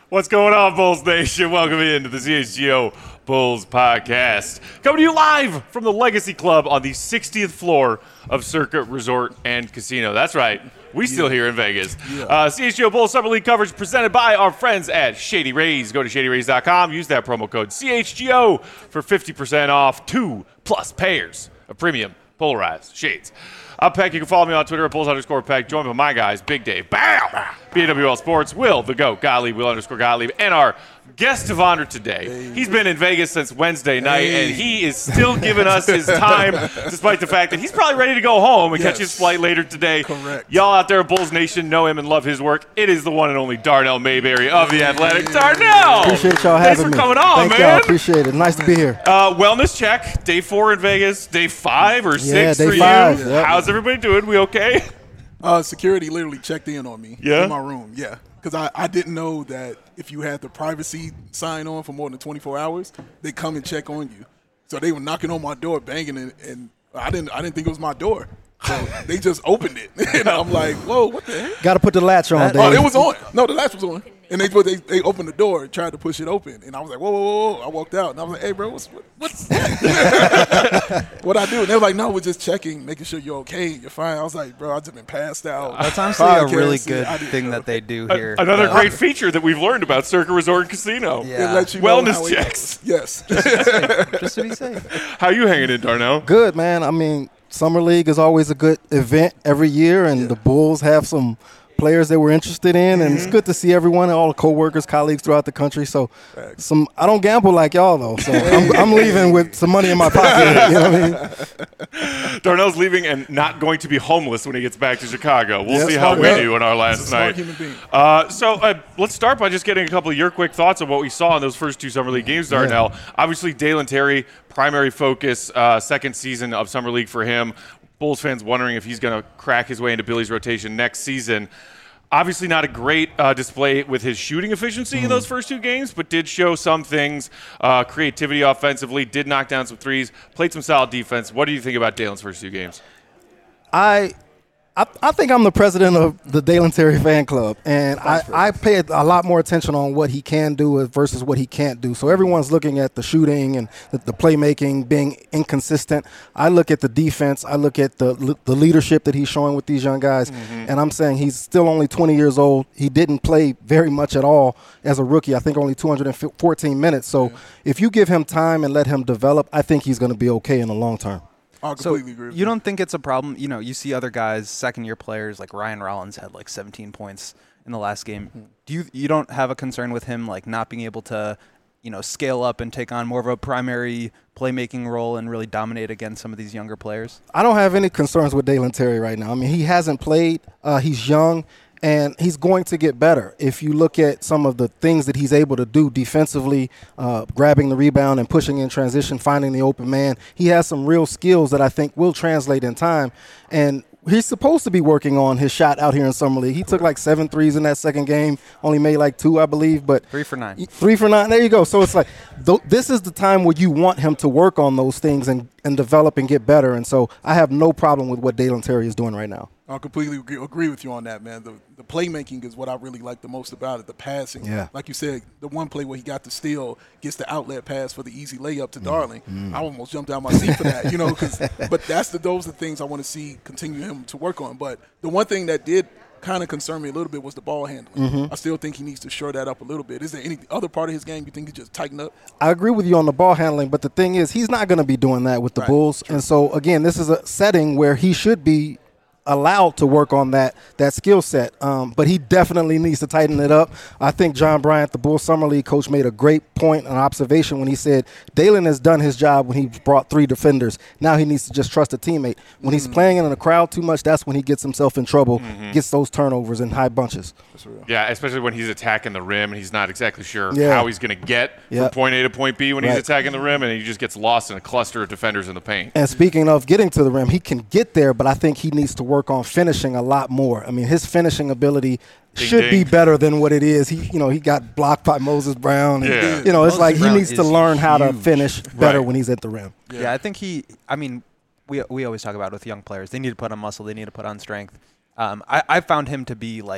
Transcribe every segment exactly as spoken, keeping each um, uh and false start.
What's going on, Bulls Nation? Welcome into the C H G O Bulls Podcast. Coming to you live from the Legacy Club on the sixtieth floor of Circuit Resort and Casino. That's right. We still here in Vegas. Yeah. Uh, C H G O Bulls Summer League coverage presented by our friends at Shady Rays. Go to shady rays dot com. Use that promo code C H G O for fifty percent off two plus pairs of premium polarized shades. I'm Peck. You can follow me on Twitter at Bulls underscore Peck. Join by my guys, Big Dave, bam, B A W L Sports, Will, the GOAT, Gottlieb, Will underscore Gottlieb, and our guest of honor today. Hey. He's been in Vegas since Wednesday night, hey. and he is still giving us his time, despite the fact that he's probably ready to go home and yes. catch his flight later today. Correct. Y'all out there at Bulls Nation know him and love his work. It is the one and only Darnell Mayberry of The Athletic. Hey. Darnell! Appreciate y'all Thanks having me. me. Thanks for coming on, Thank man. Y'all. Appreciate it. Nice to be here. Uh, wellness check. Day four in Vegas. Day five or yeah, six day for five. you. Yep. How's everybody doing? We okay? Uh, security literally checked in on me yeah? in my room. Yeah. Because I, I didn't know that if you had the privacy sign on for more than twenty-four hours, they come and check on you. So they were knocking on my door, banging it, and I didn't I didn't think it was my door. So they just opened it. And I'm like, whoa, what the heck? Got to put the latch on, that, Dave. Oh, it was on. No, the latch was on. And they, they they opened the door and tried to push it open. And I was like, whoa, whoa, whoa, whoa. I walked out. And I was like, hey, bro, what's what, what's that? What I do? And they were like, no, we're just checking, making sure you're okay, you're fine. I was like, bro, I've just been passed out. That's honestly a really good thing that they do here. A- another uh, great feature that we've learned about Circuit Resort and Casino. Yeah. It lets you Wellness know checks. Yes. Just to be safe. How you hanging in, Darnell? Good, man. I mean, Summer League is always a good event every year, and yeah. the Bulls have some players that we're interested in, and mm-hmm. it's good to see everyone, all the co-workers, colleagues throughout the country. So Thanks. some I don't gamble like y'all, though, so I'm, I'm leaving with some money in my pocket. You know what I mean? Darnell's leaving and not going to be homeless when he gets back to Chicago. We'll yeah, see how we up. do in our last night. Uh, so uh, let's start by just getting a couple of your quick thoughts on what we saw in those first two Summer League games, Darnell. Yeah. Obviously, Dalen Terry, primary focus, uh, second season of Summer League for him. Bulls fans wondering if he's going to crack his way into Billy's rotation next season. Obviously not a great uh, display with his shooting efficiency mm. in those first two games, but did show some things, uh, creativity offensively, did knock down some threes, played some solid defense. What do you think about Dalen's first two games? I I, I think I'm the president of the Dalen Terry fan club, and I, I pay a lot more attention on what he can do versus what he can't do. So everyone's looking at the shooting and the, the playmaking being inconsistent. I look at the defense. I look at the the leadership that he's showing with these young guys, mm-hmm. and I'm saying he's still only twenty years old. He didn't play very much at all as a rookie. I think only two hundred fourteen minutes. So yeah. if you give him time and let him develop, I think he's going to be okay in the long term. I completely agree with you. You don't think it's a problem? You know, you see other guys, second-year players like Ryan Rollins had like seventeen points in the last game. Do you you don't have a concern with him like not being able to, you know, scale up and take on more of a primary playmaking role and really dominate against some of these younger players? I don't have any concerns with Dalen Terry right now. I mean, he hasn't played. Uh, he's young. And he's going to get better. If you look at some of the things that he's able to do defensively, uh, grabbing the rebound and pushing in transition, finding the open man, he has some real skills that I think will translate in time. And he's supposed to be working on his shot out here in Summer League. He took like seven threes in that second game, only made like two, I believe. But three for nine. Three for nine. There you go. So it's like th- this is the time where you want him to work on those things and, and develop and get better. And so I have no problem with what Dalen Terry is doing right now. I completely agree, agree with you on that, man. The the playmaking is what I really like the most about it, the passing. Yeah. Like you said, the one play where he got the steal, gets the outlet pass for the easy layup to mm. Darling. Mm. I almost jumped out my seat for that, you know, cause, but that's the those are the things I want to see continue him to work on. But the one thing that did kind of concern me a little bit was the ball handling. Mm-hmm. I still think he needs to shore that up a little bit. Is there any other part of his game you think he just tighten up? I agree with you on the ball handling, but the thing is he's not going to be doing that with the right. Bulls. True. And so, again, this is a setting where he should be allowed to work on that that skill set, um, but he definitely needs to tighten it up. I think John Bryant, the Bulls Summer League coach, made a great point and observation when he said Dalen has done his job when he brought three defenders. Now he needs to just trust a teammate. When mm-hmm. he's playing in a crowd too much, that's when he gets himself in trouble, mm-hmm. gets those turnovers in high bunches. Yeah, especially when he's attacking the rim and he's not exactly sure yeah. how he's going to get yep. from point A to point B when right. he's attacking the rim, and he just gets lost in a cluster of defenders in the paint. And speaking of getting to the rim, he can get there, but I think he needs to work on finishing a lot more. I mean, his finishing ability ding, should ding. be better than what it is. He, you know, he got blocked by Moses Brown. And, yeah. You know, it's Moses like Brown he needs to learn how huge. to finish better right. when he's at the rim. Yeah. yeah, I think he. I mean, we we always talk about with young players, they need to put on muscle, they need to put on strength. Um, I I found him to be like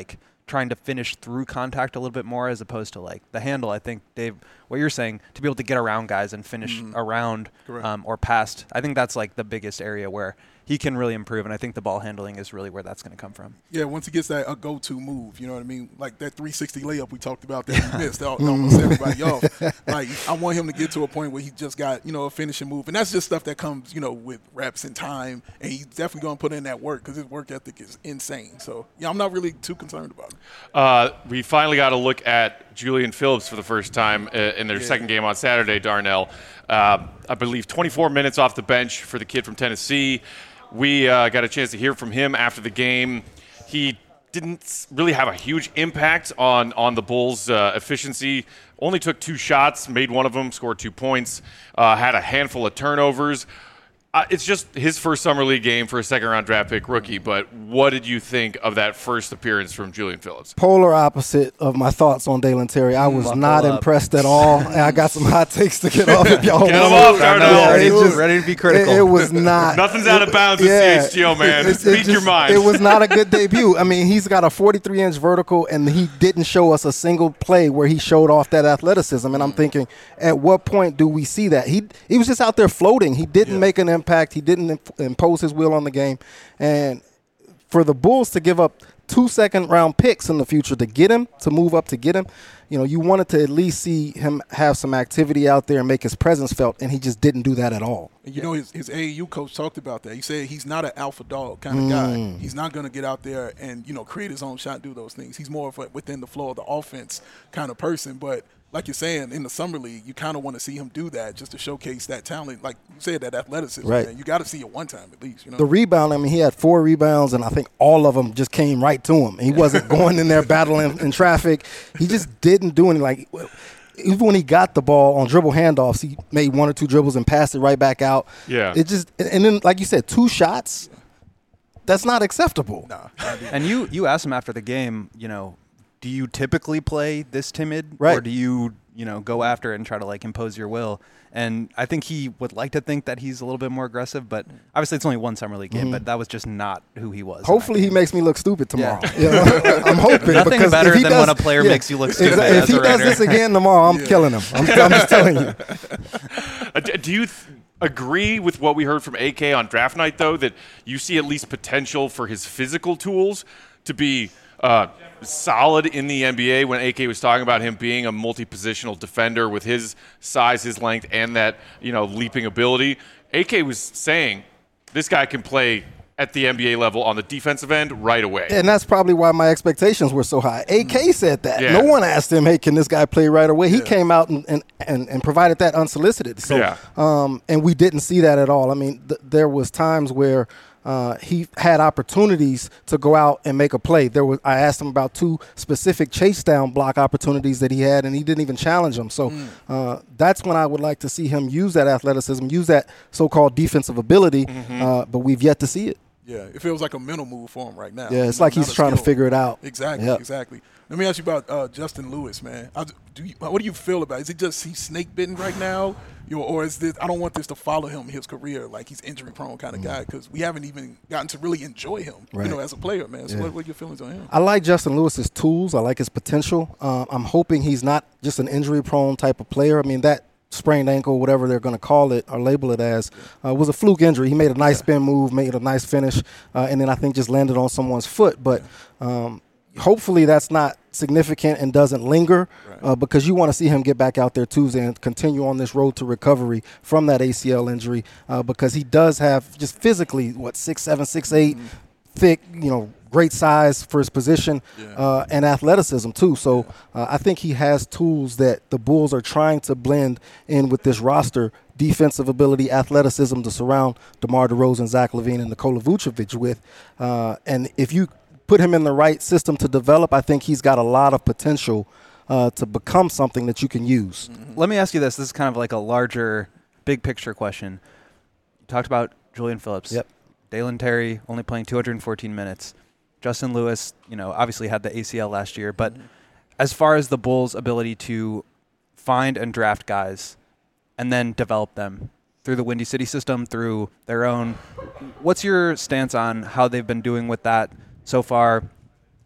trying to finish through contact a little bit more as opposed to like the handle. I think, Dave, what you're saying, to be able to get around guys and finish mm-hmm. around um, or past, I think that's like the biggest area where he can really improve, and I think the ball handling is really where that's going to come from. Yeah, once he gets that a go-to move, you know what I mean? Like that three sixty layup we talked about that he missed, that almost everybody off. Like, I want him to get to a point where he just got, you know, a finishing move. And that's just stuff that comes, you know, with reps and time, and he's definitely going to put in that work because his work ethic is insane. So, yeah, I'm not really too concerned about it. Uh, we finally got to look at Julian Phillips for the first time uh, in their yeah. second game on Saturday, Darnell. Uh, I believe twenty-four minutes off the bench for the kid from Tennessee. We uh, got a chance to hear from him after the game. He didn't really have a huge impact on, on the Bulls' uh, efficiency. Only took two shots, made one of them, scored two points, uh, had a handful of turnovers. Uh, it's just his first summer league game for a second-round draft pick rookie, but what did you think of that first appearance from Julian Phillips? Polar opposite of my thoughts on Dalen Terry. I was Buckle not up. impressed at all, and I got some hot takes to get off if y'all want. Get them off, Darnell. Yeah, ready, was, ready to be critical. It, it was not. Nothing's out of bounds with yeah, C H G O, man. It, it, Speak it just, your mind. It was not a good debut. I mean, he's got a forty-three inch vertical, and he didn't show us a single play where he showed off that athleticism, and I'm thinking, at what point do we see that? He, he was just out there floating. He didn't yeah. make an impact. He didn't impose his will on the game, and for the Bulls to give up two second round picks in the future to get him, to move up to get him, you know, you wanted to at least see him have some activity out there and make his presence felt, and he just didn't do that at all. And you know, his, his A A U coach talked about that. He said he's not an alpha dog kind of mm. guy. He's not going to get out there and, you know, create his own shot, do those things. He's more of a within the flow of the offense kind of person, but like you're saying, in the summer league, you kind of want to see him do that just to showcase that talent. Like you said, that athleticism. Right. Man. You got to see it one time at least. You know? The rebound, I mean, he had four rebounds, and I think all of them just came right to him. He wasn't going in there battling in traffic. He just didn't do anything. Like, even when he got the ball on dribble handoffs, he made one or two dribbles and passed it right back out. Yeah. It just, and then, like you said, two shots, that's not acceptable. Nah, and you, you asked him after the game, you know, do you typically play this timid, right. or do you, you know, go after it and try to like impose your will? And I think he would like to think that he's a little bit more aggressive, but obviously it's only one summer league game. Mm-hmm. But that was just not who he was. Hopefully he makes me look stupid tomorrow. Yeah. You know? I'm hoping. Nothing because better if he than does, when a player yeah, makes you look stupid. Exactly. If he does this again tomorrow, I'm yeah. killing him. I'm, I'm just telling you. Uh, do you th- agree with what we heard from A K on draft night, though, that you see at least potential for his physical tools to be uh, solid in the N B A, when A K was talking about him being a multi-positional defender with his size, his length, and that, you know, leaping ability? A K was saying this guy can play at the N B A level on the defensive end right away. And that's probably why my expectations were so high. A K said that. Yeah. No one asked him, hey, can this guy play right away? He Yeah. came out and, and, and, and provided that unsolicited. So, Yeah. um, and we didn't see that at all. I mean, th- there was times where uh, he had opportunities to go out and make a play. There was I asked him about two specific chase down block opportunities that he had, and he didn't even challenge them. So mm. uh, that's when I would like to see him use that athleticism, use that so-called defensive ability, mm-hmm. uh, but we've yet to see it. Yeah, it feels like a mental move for him right now. Yeah, it's not, like he's trying skill. to figure it out. Exactly, yep. exactly. Let me ask you about uh, Justin Lewis, man. I, do you, what do you feel about it? Is it just he's snake bitten right now? You know, or is this, I don't want this to follow him, his career, like he's injury prone kind of mm. guy, because we haven't even gotten to really enjoy him, right. you know, as a player, man. So yeah. what, what are your feelings on him? I like Justin Lewis's tools. I like his potential. Uh, I'm hoping he's not just an injury prone type of player. I mean, that sprained ankle, whatever they're going to call it or label it as, uh, was a fluke injury. He made a nice spin move, made a nice finish, uh, and then I think just landed on someone's foot. But um, hopefully that's not significant and doesn't linger, right. uh, because you want to see him get back out there Tuesday and continue on this road to recovery from that A C L injury, uh, because he does have just physically, what, six seven, six eight, mm-hmm. thick, you know, great size for his position, yeah. uh, and athleticism too. So uh, I think he has tools that the Bulls are trying to blend in with this roster: defensive ability, athleticism to surround DeMar DeRozan, Zach LaVine, and Nikola Vucevic with. Uh, and if you put him in the right system to develop, I think he's got a lot of potential uh, to become something that you can use. Mm-hmm. Let me ask you this. This is kind of like a larger, big picture question. You talked about Julian Phillips. Yep. Dalen Terry only playing two hundred fourteen minutes. Justin Lewis, you know, obviously had the A C L last year, but mm-hmm. as far as the Bulls' ability to find and draft guys and then develop them through the Windy City system, through their own, what's your stance on how they've been doing with that so far?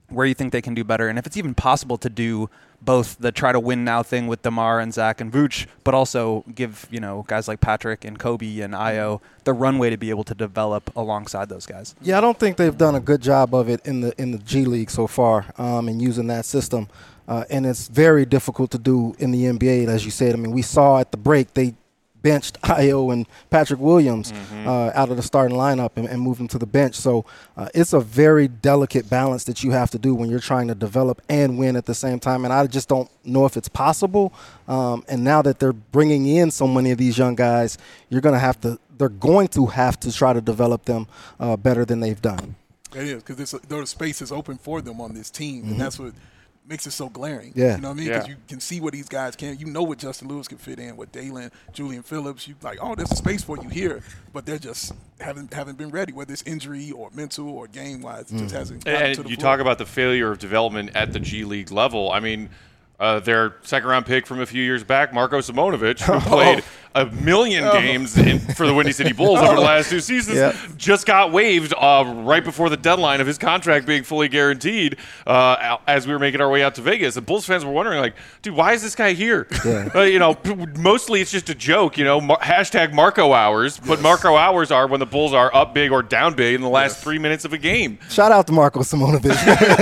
where you think they can do better, and if it's even possible to do both the try to win now thing with DeMar and Zach and Vooch, but also give, you know, guys like Patrick and Kobe and Io the runway to be able to develop alongside those guys. Yeah, I don't think they've done a good job of it in the in the G League so far, um, in using that system. Uh, and it's very difficult to do in the N B A, as you said. I mean, we saw at the break they benched Io and Patrick Williams mm-hmm. uh, out of the starting lineup and, and moved them to the bench. So uh, it's a very delicate balance that you have to do when you're trying to develop and win at the same time. And I just don't know if it's possible. Um, and now that they're bringing in so many of these young guys, you're going to have to – they're going to have to try to develop them uh, better than they've done. It is, because the space is open for them on this team, mm-hmm. and that's what – makes it so glaring. Yeah. You know what I mean? Yeah. Because you can see what these guys can. You know what Justin Lewis can fit in, what Dalen, Julian Phillips. You like, oh, there's a space for you here, but they're just haven't haven't been ready, whether it's injury or mental or game wise. It mm. just hasn't. And, and to the you floor. talk about the failure of development at the G League level. I mean, uh, their second round pick from a few years back, Marko Simonovic, who played a million oh. games in, for the Windy City Bulls over the last two seasons, yep. just got waived uh, right before the deadline of his contract being fully guaranteed uh, as we were making our way out to Vegas. And Bulls fans were wondering, like, dude, why is this guy here? Yeah. Uh, you know, mostly it's just a joke, you know, mar- hashtag Marco hours, yes. but Marco hours are when the Bulls are up big or down big in the last yes. three minutes of a game. Shout out to Marko Simonovic.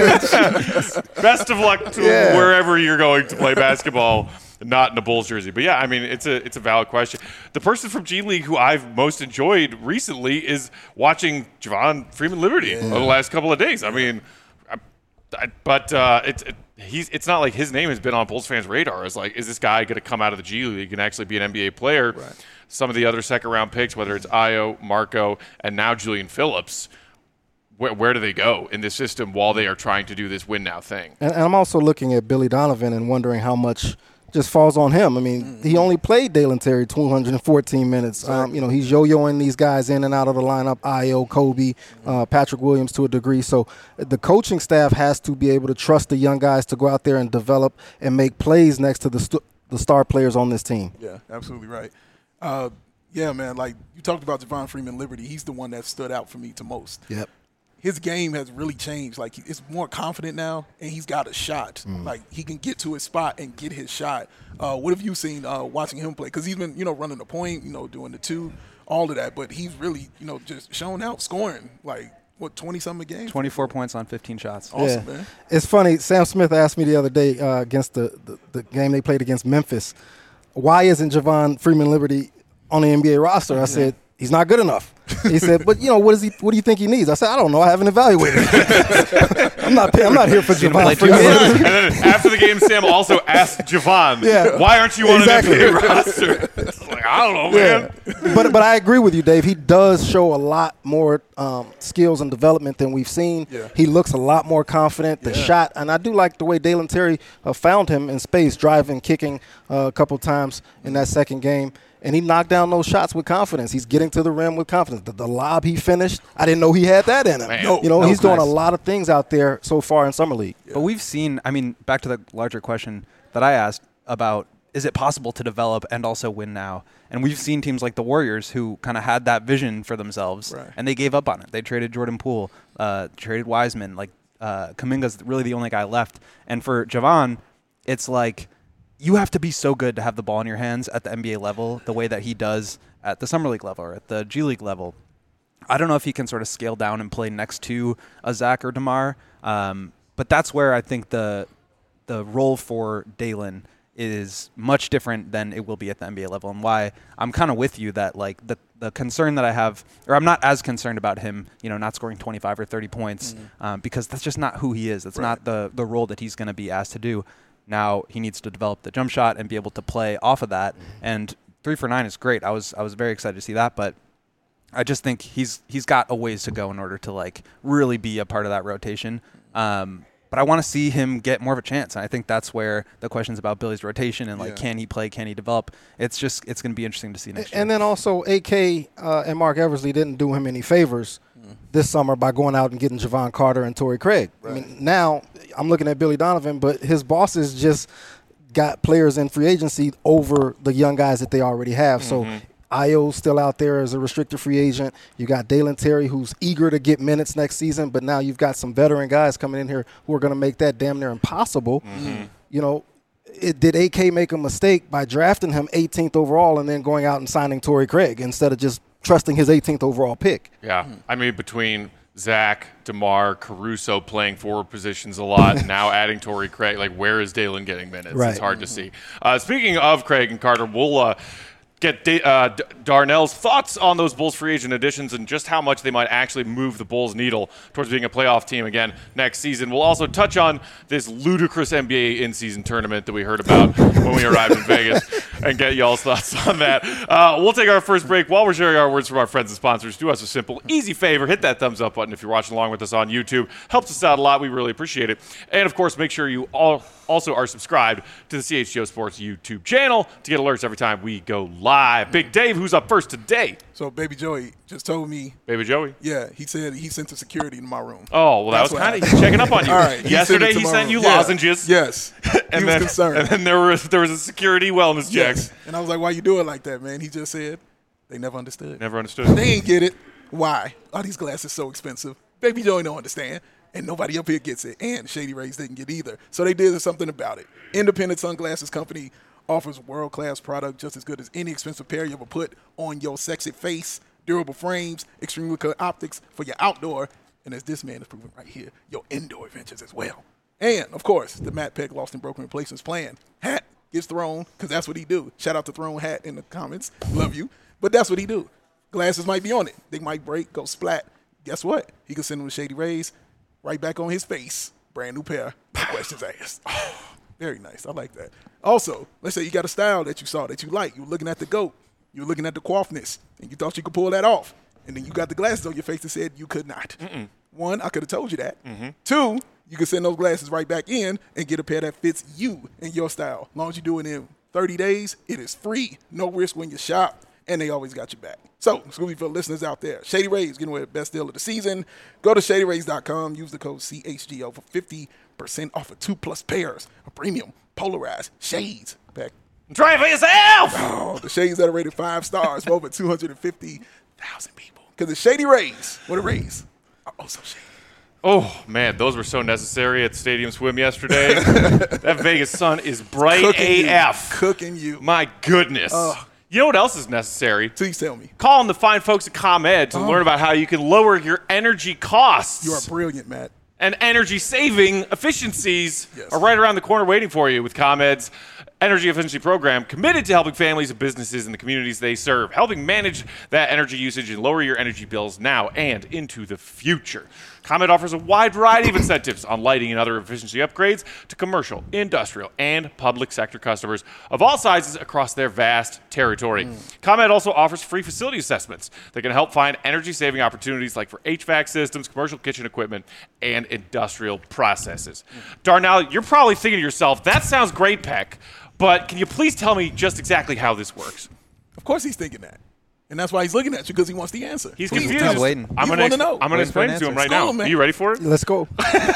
Best of luck to yeah. wherever you're going to play basketball. Not in a Bulls jersey. But, yeah, I mean, it's a it's a valid question. The person from G League who I've most enjoyed recently is watching Javon Freeman Liberty yeah. over the last couple of days. I mean, I, I, but uh, it's it, he's it's not like his name has been on Bulls fans' radar. It's like, is this guy going to come out of the G League and actually be an N B A player? Right. Some of the other second-round picks, whether it's Io, Marco, and now Julian Phillips, Where, where do they go in this system while they are trying to do this win-now thing? And, and I'm also looking at Billy Donovan and wondering how much – just falls on him. I mean, mm-hmm. he only played Dalen Terry two hundred fourteen minutes. Exactly. Um, you know, he's yo-yoing these guys in and out of the lineup, Io, Kobe, mm-hmm. uh, Patrick Williams to a degree. So the coaching staff has to be able to trust the young guys to go out there and develop and make plays next to the st- the star players on this team. Yeah, absolutely right. Uh, yeah, man, like you talked about Javon Freeman Liberty. He's the one that stood out for me to most. Yep. His game has really changed. Like, it's more confident now, and he's got a shot. Mm. Like, he can get to his spot and get his shot. Uh, what have you seen uh, watching him play? Because he's been, you know, running the point, you know, doing the two, all of that. But he's really, you know, just shown out scoring, like, what, twenty-something a game? twenty-four points on fifteen shots. Awesome, yeah. man. It's funny. Sam Smith asked me the other day uh, against the, the, the game they played against Memphis, why isn't Javon Freeman Liberty on the N B A roster? I yeah. said, he's not good enough. He said, but, you know, what is he? What do you think he needs? I said, I don't know. I haven't evaluated him. I'm not paying, I'm not here for Javon Freeman. And then after the game, Sam also asked Javon, yeah. why aren't you on exactly. an N B A roster? It's like, I don't know, man. Yeah. But, but I agree with you, Dave. He does show a lot more um, skills and development than we've seen. Yeah. He looks a lot more confident. The yeah. shot, and I do like the way Dalen Terry uh, found him in space, driving, kicking uh, a couple times in that second game. And he knocked down those shots with confidence. He's getting to the rim with confidence. The, the lob he finished, I didn't know he had that in him. Man. You know, no, he's doing nice. a lot of things out there so far in Summer League. Yeah. But we've seen, I mean, back to the larger question that I asked about, is it possible to develop and also win now? And we've seen teams like the Warriors who kind of had that vision for themselves, right. and they gave up on it. They traded Jordan Poole, uh, traded Wiseman. Like, uh, Kuminga's really the only guy left. And for Javon, it's like, you have to be so good to have the ball in your hands at the N B A level the way that he does at the Summer League level or at the G League level. I don't know if he can sort of scale down and play next to a Zach or DeMar, um, but that's where I think the the role for Dalen is much different than it will be at the N B A level, and why I'm kind of with you that like the the concern that I have, or I'm not as concerned about him, you know, not scoring twenty-five or thirty points, mm-hmm. um, because that's just not who he is. That's right. not the the role that he's going to be asked to do. Now he needs to develop the jump shot and be able to play off of that. Mm-hmm. And three for nine is great. I was I was very excited to see that, but I just think he's he's got a ways to go in order to like really be a part of that rotation. Um, but I want to see him get more of a chance. And I think that's where the questions about Billy's rotation and like, yeah. can he play, can he develop? It's just it's going to be interesting to see next year. And then also A K uh, and Mark Eversley didn't do him any favors mm. this summer by going out and getting Javon Carter and Torrey Craig. Right. I mean, now I'm looking at Billy Donovan, but his bosses just got players in free agency over the young guys that they already have. Mm-hmm. So Io's still out there as a restricted free agent. You got Dalen Terry, who's eager to get minutes next season, but now you've got some veteran guys coming in here who are going to make that damn near impossible. Mm-hmm. You know, it, did A K make a mistake by drafting him eighteenth overall and then going out and signing Torrey Craig instead of just trusting his eighteenth overall pick? Yeah, I mean, between Zach, DeMar, Caruso playing forward positions a lot, now adding Torrey Craig, like where is Dalen getting minutes? Right. It's hard to see. Uh, speaking of Craig and Carter, we'll uh, get da- uh, D- Darnell's thoughts on those Bulls free agent additions and just how much they might actually move the Bulls needle towards being a playoff team again next season. We'll also touch on this ludicrous N B A in-season tournament that we heard about when we arrived in Vegas and get y'all's thoughts on that. Uh, we'll take our first break. While we're sharing our words from our friends and sponsors, do us a simple, easy favor. Hit that thumbs up button if you're watching along with us on YouTube. Helps us out a lot. We really appreciate it. And, of course, make sure you all also are subscribed to the C H G O Sports YouTube channel to get alerts every time we go live. Big Dave, who's up first today? So Baby Joey just told me. Baby Joey? Yeah, he said he sent the security in my room. Oh, well, that That's was what kind of happened. checking up on you. All right, he Yesterday, sent it to he my sent room. you Yeah. lozenges. Yes. And he then, was concerned. And then there was there was a security wellness check. Yes. And I was like, why you do it like that, man? He just said they never understood. Never understood. They ain't get it. Why? Are these glasses so expensive? Baby Joey don't understand. And nobody up here gets it. And Shady Rays didn't get either. So they did something about it. Independent Sunglasses Company offers world-class product just as good as any expensive pair you ever put on your sexy face. Durable frames, extremely clear optics for your outdoor, and as this man is proving right here, your indoor adventures as well. And, of course, the Matt Peck Lost and Broken Replacements plan. Hat gets thrown, because that's what he do. Shout out to Throne Hat in the comments. Love you. But that's what he do. Glasses might be on it. They might break, go splat. Guess what? He can send them to Shady Rays right back on his face. Brand new pair. No questions asked. Oh, very nice. I like that. Also, let's say you got a style that you saw that you like. You were looking at the GOAT. You were looking at the coifness, and you thought you could pull that off. And then you got the glasses on your face that said you could not. Mm-mm. One, I could have told you that. Mm-hmm. Two, you could send those glasses right back in and get a pair that fits you and your style. As long as you do it in thirty days, it is free. No risk when you shop, and they always got your back. So, Scooby, for the listeners out there, Shady Rays getting away with the best deal of the season. Go to shady rays dot com. Use the code C H G O for fifty percent off of two-plus pairs of premium polarized shades. Back. Try it for yourself! Oh, the shades that are rated five stars for over two hundred fifty thousand people. Because the Shady Rays, what a Rays, are also shady. Oh, man, those were so necessary at Stadium Swim yesterday. That Vegas sun is bright Cooking A F. You. Cooking you. My goodness. Uh, you know what else is necessary? Please tell me. Call on the fine folks at ComEd to Oh. learn about how you can lower your energy costs. You are brilliant, Matt. And energy-saving efficiencies Yes. are right around the corner waiting for you with ComEd's energy efficiency program, committed to helping families and businesses in the communities they serve, helping manage that energy usage and lower your energy bills now and into the future. ComEd offers a wide variety of incentives on lighting and other efficiency upgrades to commercial, industrial, and public sector customers of all sizes across their vast territory. Mm. ComEd also offers free facility assessments that can help find energy-saving opportunities like for H V A C systems, commercial kitchen equipment, and industrial processes. Mm. Darnell, you're probably thinking to yourself, that sounds great, Peck, but can you please tell me just exactly how this works? Of course he's thinking that. And that's why he's looking at you, because he wants the answer. He's Please confused. tell He's us. waiting. I'm You going want to to know. I'm going to Waiting for an explain it to him answer. right School now. him, man. Are you ready for it? Let's go.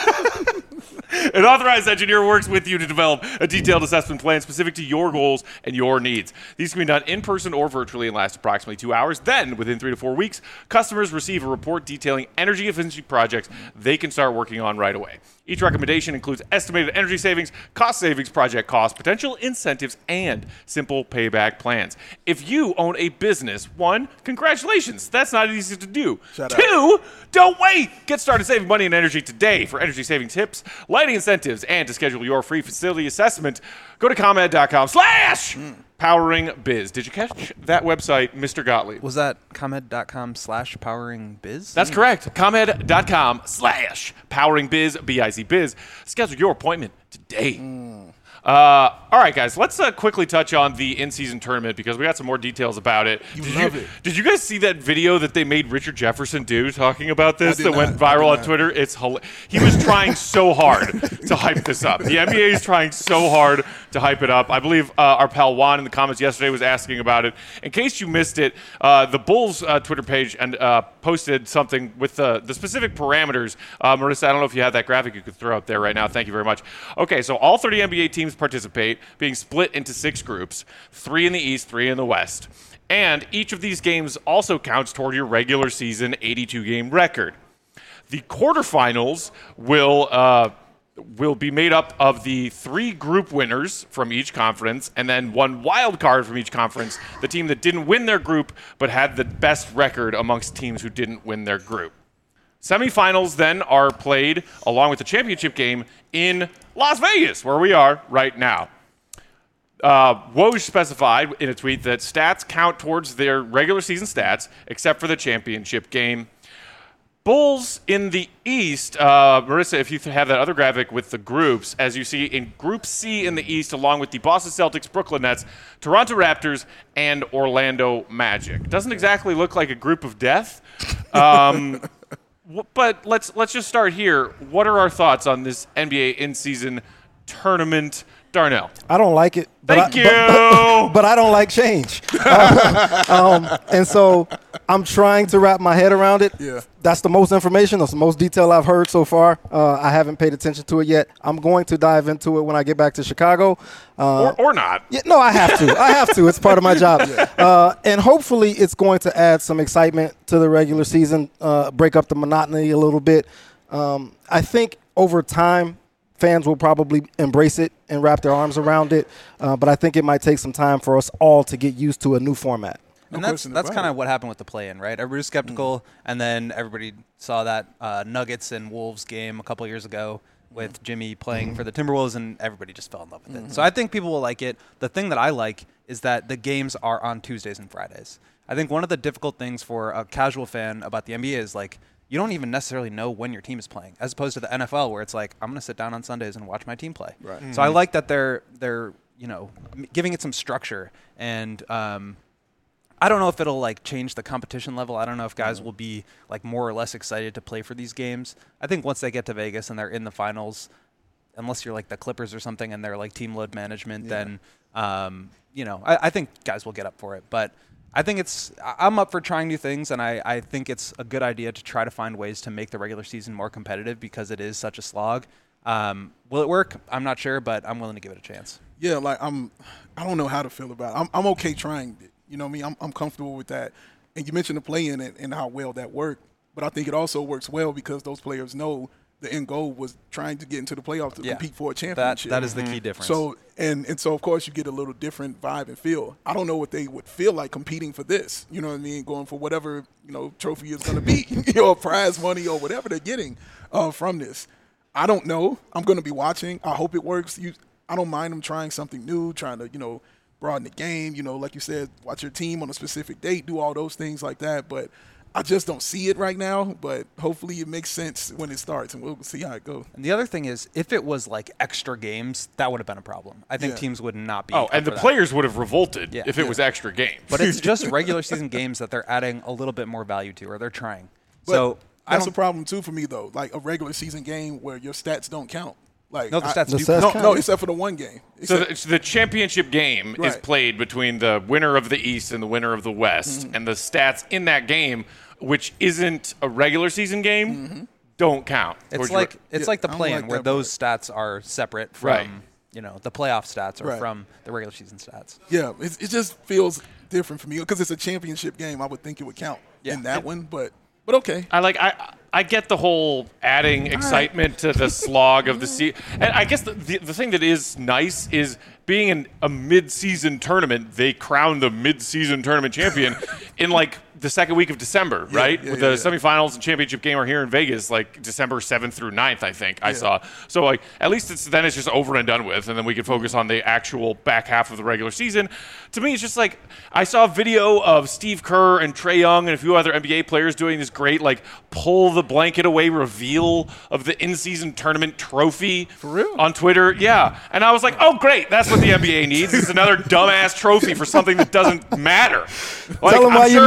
An authorized engineer works with you to develop a detailed assessment plan specific to your goals and your needs. These can be done in person or virtually and last approximately two hours. Then, within three to four weeks, customers receive a report detailing energy efficiency projects they can start working on right away. Each recommendation includes estimated energy savings, cost savings, project costs, potential incentives, and simple payback plans. If you own a business, one, congratulations. That's not easy to do. Shout Two, don't wait. Get started saving money and energy today. For energy saving tips, lighting incentives, and to schedule your free facility assessment, go to ComEd.com slash powering biz. Did you catch that website, Mister Gottlieb? Was that ComEd.com slash powering biz? That's correct. ComEd.com slash powering biz, B I Z biz. Schedule your appointment today. Uh, all right, guys, let's uh, quickly touch on the in-season tournament because we got some more details about it. You did love you, it. Did you guys see that video that they made Richard Jefferson do talking about this I did that went not. I viral did on not. Twitter? It's hila- He was trying so hard to hype this up. The N B A is trying so hard to hype it up. I believe uh, our pal Juan in the comments yesterday was asking about it. In case you missed it, uh, the Bulls uh, Twitter page and uh, posted something with uh, the specific parameters. Uh, Marissa, I don't know if you have that graphic you could throw up there right now. Thank you very much. Okay, so all thirty N B A teams teams participate, being split into six groups, three in the East, three in the West. And each of these games also counts toward your regular season eighty-two game record. The quarterfinals will uh, will be made up of the three group winners from each conference and then one wild card from each conference, the team that didn't win their group but had the best record amongst teams who didn't win their group. Semifinals then are played along with the championship game in Las Vegas, where we are right now. Uh, Woj specified in a tweet that stats count towards their regular season stats, except for the championship game. Bulls in the East, uh, Marissa, if you have that other graphic with the groups, as you see in Group C in the East, along with the Boston Celtics, Brooklyn Nets, Toronto Raptors, and Orlando Magic. Doesn't exactly look like a group of death. Um, but let's let's just start here. What are our thoughts on this N B A in-season tournament? Darnell. I don't like it. But Thank I, you. But, but, but I don't like change. uh, um, and so I'm trying to wrap my head around it. Yeah. That's the most information. That's the most detail I've heard so far. Uh, I haven't paid attention to it yet. I'm going to dive into it when I get back to Chicago. Uh, or, or not. Yeah, no, I have to. I have to. It's part of my job. Yeah. Uh, and hopefully it's going to add some excitement to the regular season, uh, break up the monotony a little bit. Um, I think over time, fans will probably embrace it and wrap their arms around it, uh, but I think it might take some time for us all to get used to a new format. And No that's question that's about kind it. of what happened with the play-in, right? Everybody was skeptical, mm. and then everybody saw that uh, Nuggets and Wolves game a couple years ago with Jimmy playing mm-hmm. for the Timberwolves, and everybody just fell in love with mm-hmm. it. So I think people will like it. The thing that I like is that the games are on Tuesdays and Fridays. I think one of the difficult things for a casual fan about the N B A is like, you don't even necessarily know when your team is playing, as opposed to the N F L where it's like, I'm going to sit down on Sundays and watch my team play. Right. Mm-hmm. So I like that they're they're you know m- giving it some structure, and um, I don't know if it'll like change the competition level. I don't know if guys mm-hmm. will be like more or less excited to play for these games. I think once they get to Vegas and they're in the finals, unless you're like the Clippers or something and they're like team load management, yeah. then um, you know I, I think guys will get up for it, but. I think it's – I'm up for trying new things, and I, I think it's a good idea to try to find ways to make the regular season more competitive because it is such a slog. Um, will it work? I'm not sure, but I'm willing to give it a chance. Yeah, like I'm – I don't know how to feel about it. I'm, I'm okay trying it. You know what I mean? I'm, I'm comfortable with that. And you mentioned the play-in and, and how well that worked, but I think it also works well because those players know the end goal was trying to get into the playoffs to yeah. compete for a championship. That, that is the key difference. So and and so of course you get a little different vibe and feel. I don't know what they would feel like competing for this. You know what I mean? Going for whatever you know trophy is going to be, you know, prize money or whatever they're getting uh, from this. I don't know. I'm going to be watching. I hope it works. You, I don't mind them trying something new, trying to you know broaden the game. You know, like you said, watch your team on a specific date, do all those things like that. But I just don't see it right now, but hopefully it makes sense when it starts, and we'll see how it goes. And the other thing is, if it was like extra games, that would have been a problem. I think Yeah. teams would not be. Oh, up and the for that. players would have revolted Yeah. if it Yeah. was extra games. But it's just regular season games that they're adding a little bit more value to, or they're trying. But so I that's don't. a problem too for me though. Like a regular season game where your stats don't count. Like No, the I- stats The do. stats no, count. no, except for the one game. So Except- the, so the championship game is Right. played between the winner of the East and the winner of the West, Mm-hmm. and the stats in that game, which isn't a regular season game, Mm-hmm. don't count. It's towards your- like it's Yeah, like the I don't play-in like where that those stats are separate from Right. you know the playoff stats or Right. from the regular season stats. yeah, it, it just feels different for me because it's a championship game. I would think it would count Yeah. in that one, but but okay. I like I I get the whole adding excitement to the slog of the season, and I guess the, the the thing that is nice is being in a mid-season tournament. They crown the mid-season tournament champion in like the second week of December, Yeah, right? yeah, With yeah, the yeah. semifinals and championship game are here in Vegas, like December seventh through ninth, I think I Yeah. saw. So like at least it's then it's just over and done with, and then we can focus on the actual back half of the regular season. To me, it's just like I saw a video of Steve Kerr and Trae Young and a few other N B A players doing this great like pull the blanket away reveal of the in-season tournament trophy For real? on Twitter. Yeah, and I was like, oh great, that's what the N B A needs. It's another dumbass trophy for something that doesn't matter. Like, Tell 'em I'm why you're sure mad, our, Matt.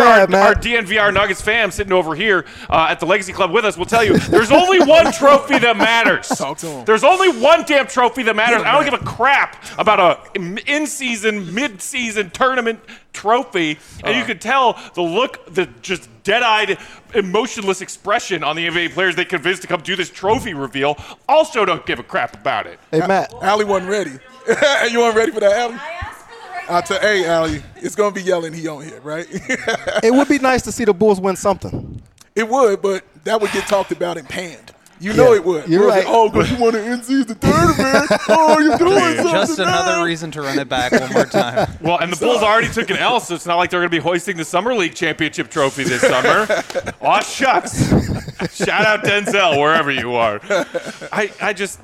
our D N V R Nuggets fam sitting over here uh, at the Legacy Club with us will tell you there's only one trophy that matters. Talk to him. There's only one damn trophy that matters. I don't give a crap about a in-season, mid-season tournament trophy. And uh. you can tell the look, the just dead-eyed, emotionless expression on the N B A players they convinced to come do this trophy reveal also don't give a crap about it. Hey, Matt. Allie wasn't ready. You weren't ready for that, Allie? I'll tell, hey, Allie, it's going to be yelling he on here, right? It would be nice to see the Bulls win something. It would, but that would get talked about and panned. You know yeah, it would. You're right. Like, oh, because you want to in-season tournament. Oh, you're doing something. Just another now. reason to run it back one more time. Well, and the Bulls already took an L, so it's not like they're going to be hoisting the Summer League championship trophy this summer. Aw, shucks. Shout out Denzel, wherever you are. I, I just...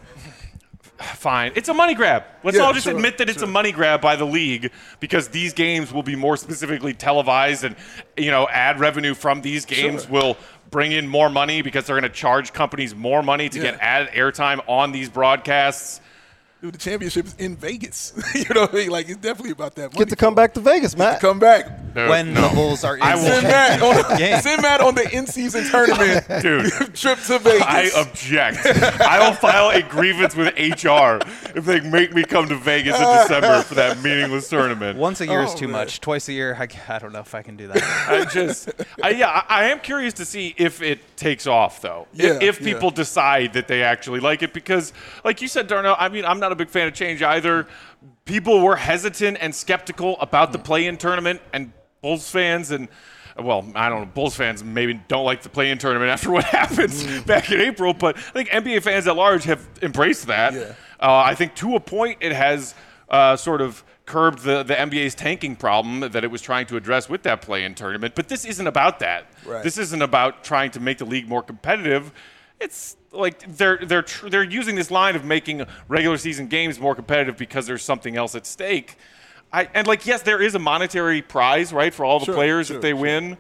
Fine. It's a money grab. Let's yeah, all just sure, admit that it's sure. a money grab by the league because these games will be more specifically televised and, you know, ad revenue from these games Sure. will bring in more money because they're going to charge companies more money to Yeah. get ad airtime on these broadcasts. Dude, the championship is in Vegas. You know what I mean? Like, it's definitely about that money. Get to come back to Vegas, Matt. Come back. Dude, When no. the Bulls are in I will- Send Matt on the, game. send Matt on the in-season tournament Dude. trip to Vegas. I object. I will file a grievance with H R if they make me come to Vegas in December for that meaningless tournament. Once a year is Oh, too man. much. Twice a year, I, I don't know if I can do that. I just, I, yeah, I, I am curious to see if it takes off, though. Yeah, if, if yeah. people decide that they actually like it, because, like you said, Darnell, I mean, I'm not a big fan of change either. People were hesitant and skeptical about the play-in tournament, and Bulls fans and, well, I don't know, Bulls fans maybe don't like the play-in tournament after what happened Mm. back in April, but I think N B A fans at large have embraced that. Yeah. Uh, I think to a point it has uh, sort of curbed the, the N B A's tanking problem that it was trying to address with that play-in tournament. But this isn't about that. Right. This isn't about trying to make the league more competitive. It's like they're they're tr- they're using this line of making regular season games more competitive because there's something else at stake. I, and like yes, there is a monetary prize, right, for all the Sure, players sure, if they sure. win.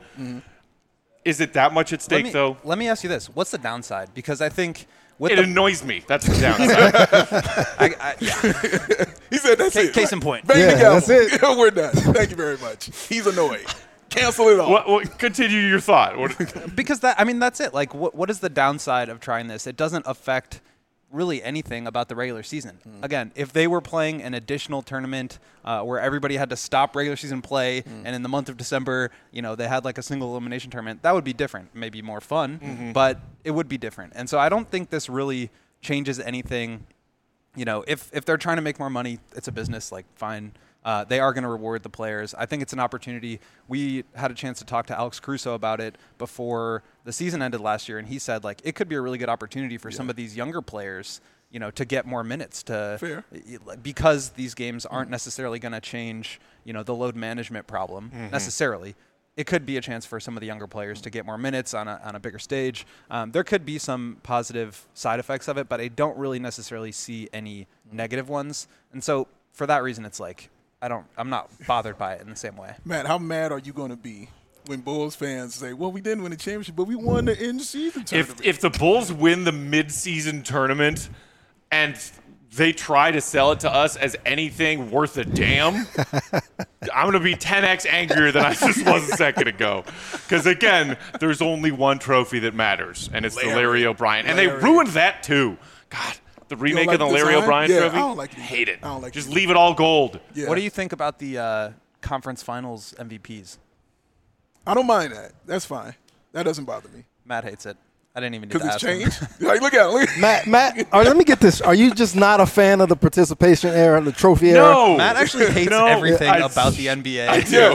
Is it that much at stake let me, though? Let me ask you this: what's the downside? Because I think with It the annoys me. That's the downside. I, I, yeah. He said that's Ca- it. case right. in point. Bang Yeah, the gavel. that's it. We're done. Thank you very much. He's annoyed. Cancel it all. what, what, continue your thought. What, Because that I mean that's it. Like what what is the downside of trying this? It doesn't affect really anything about the regular season. Mm. Again, if they were playing an additional tournament uh, where everybody had to stop regular season play, Mm. and in the month of December, you know, they had like a single elimination tournament, that would be different. Maybe more fun, Mm-hmm. but it would be different. And so I don't think this really changes anything. You know, if if they're trying to make more money, it's a business. Like fine. Uh, they are going to reward the players. I think it's an opportunity. We had a chance to talk to Alex Caruso about it before the season ended last year, and he said like it could be a really good opportunity for some of these younger players, you know, to get more minutes to Fair. because these games aren't necessarily going to change, you know, the load management problem necessarily. It could be a chance for some of the younger players to get more minutes on a on a bigger stage. Um, there could be some positive side effects of it, but I don't really necessarily see any negative ones. And so for that reason, it's like. I don't. I'm not bothered by it in the same way. Matt, how mad are you going to be when Bulls fans say, well, we didn't win the championship, but we won the in-season tournament? if if the Bulls win the mid-season tournament and they try to sell it to us as anything worth a damn, I'm going to be ten x angrier than I just was a second ago. Because, again, there's only one trophy that matters, and it's the Larry. Larry O'Brien. And they Larry. ruined that, too. God, the remake like of the the Larry design? O'Brien Yeah, trophy? I don't like the Hate design. it. I don't like just the leave it all gold. Yeah. What do you think about the uh, conference finals M V Ps? I don't mind that. That's fine. That doesn't bother me. Matt hates it. I didn't even need to Because ask it's him. changed. Like, look at it. Look. Matt, Matt, or let me get this. Are you just not a fan of the participation era, the trophy era? No. Matt actually hates No, everything I- about the N B A. I do.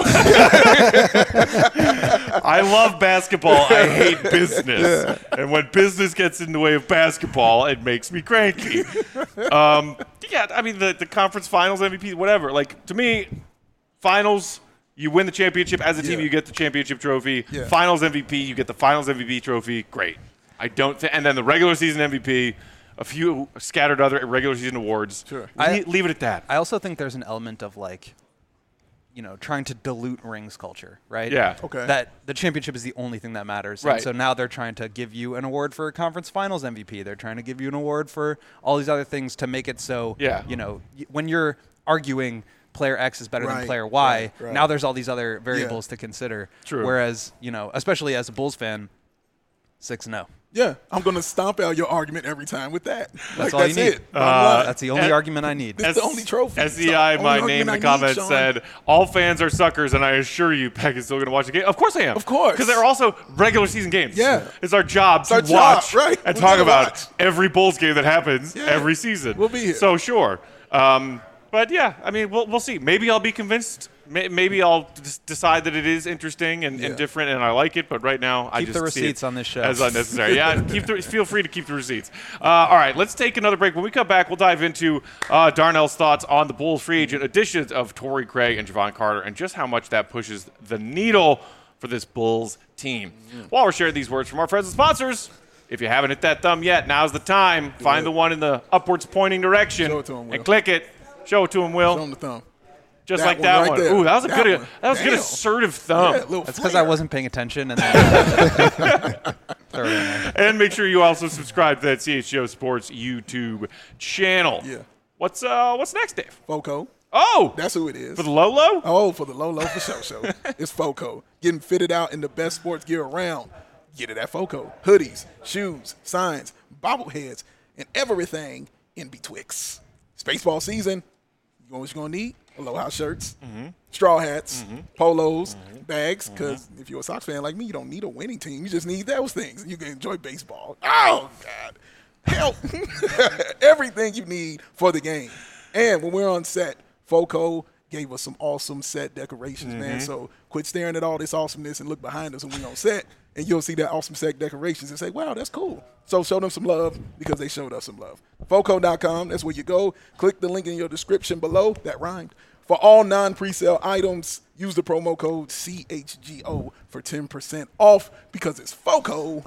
I love basketball. I hate business. And when business gets in the way of basketball, it makes me cranky. Um, yeah, I mean, the, the conference finals, M V P, whatever. Like, to me, finals, you win the championship. As a team, Yeah. you get the championship trophy. Yeah. Finals M V P, you get the finals M V P trophy. Great. I don't think. And then the regular season M V P, a few scattered other regular season awards. Sure. I, I- leave it at that. I also think there's an element of like, you know, trying to dilute rings culture, right? Yeah. Okay. That the championship is the only thing that matters. Right. And so now they're trying to give you an award for conference finals M V P. They're trying to give you an award for all these other things to make it so, Yeah. you know, y- when you're arguing player X is better Right, than player Y. right, right. Now there's all these other variables to consider. True. Whereas, you know, especially as a Bulls fan, six and oh. Yeah, I'm going to stomp out your argument every time with that. That's like, all that's you need. it. Bottom line. That's the only and- argument I need. This is the only trophy. S It's E I, the my only name in the argument I need, comments Sean. said, all fans are suckers, and I assure you, Peck is still going to watch the game. Of course I am. Of course. Because they're also regular season games. Yeah. It's our job to our job, watch right. and We're talk gonna about watch. every Bulls game that happens Yeah. every season. We'll be here. So, sure. Um, but, yeah, I mean, we'll, we'll see. Maybe I'll be convinced. May- Maybe I'll d- decide that it is interesting and, Yeah. and different, and I like it. But right now, I Keep just the see receipts it on this show. as unnecessary. Yeah, keep the, feel free to keep the receipts. Uh, all right, let's take another break. When we come back, we'll dive into uh, Darnell's thoughts on the Bulls free agent additions of Torrey Craig and Javon Carter, and just how much that pushes the needle for this Bulls team. While we're sharing these words from our friends and sponsors, if you haven't hit that thumb yet, now's the time. Find it. the one in the upwards pointing direction Show it to 'em, Will. and click it. Show it to him, Will. Show 'em the thumb. Just That like one that right one. there. Ooh, that was a That good. one. That was a good Damn. assertive thumb. Yeah, little That's because I flair. wasn't paying attention. And then throw it in there. And make sure you also subscribe to that C H G O Sports YouTube channel. Yeah. What's uh What's next, Dave? Foco. Oh, That's who it is. for the Lolo. Oh, for the low, low for show show. It's Foco. Getting fitted out in the best sports gear around. Get it at Foco. Hoodies, shoes, signs, bobbleheads, and everything in betwixt. It's baseball season. You know what you're going to need? Aloha shirts, Mm-hmm. straw hats, polos, bags, because if you're a Sox fan like me, you don't need a winning team. You just need those things. and You can enjoy baseball. Oh, God. Help. Everything you need for the game. And when we're on set, Foco gave us some awesome set decorations, man. So quit staring at all this awesomeness and look behind us when we're on set, and you'll see that awesome set decorations and say, wow, that's cool. So show them some love because they showed us some love. Foco dot com, that's where you go. Click the link in your description below. That rhymed. For all non-presale items, use the promo code C H G O for ten percent off because it's Foco.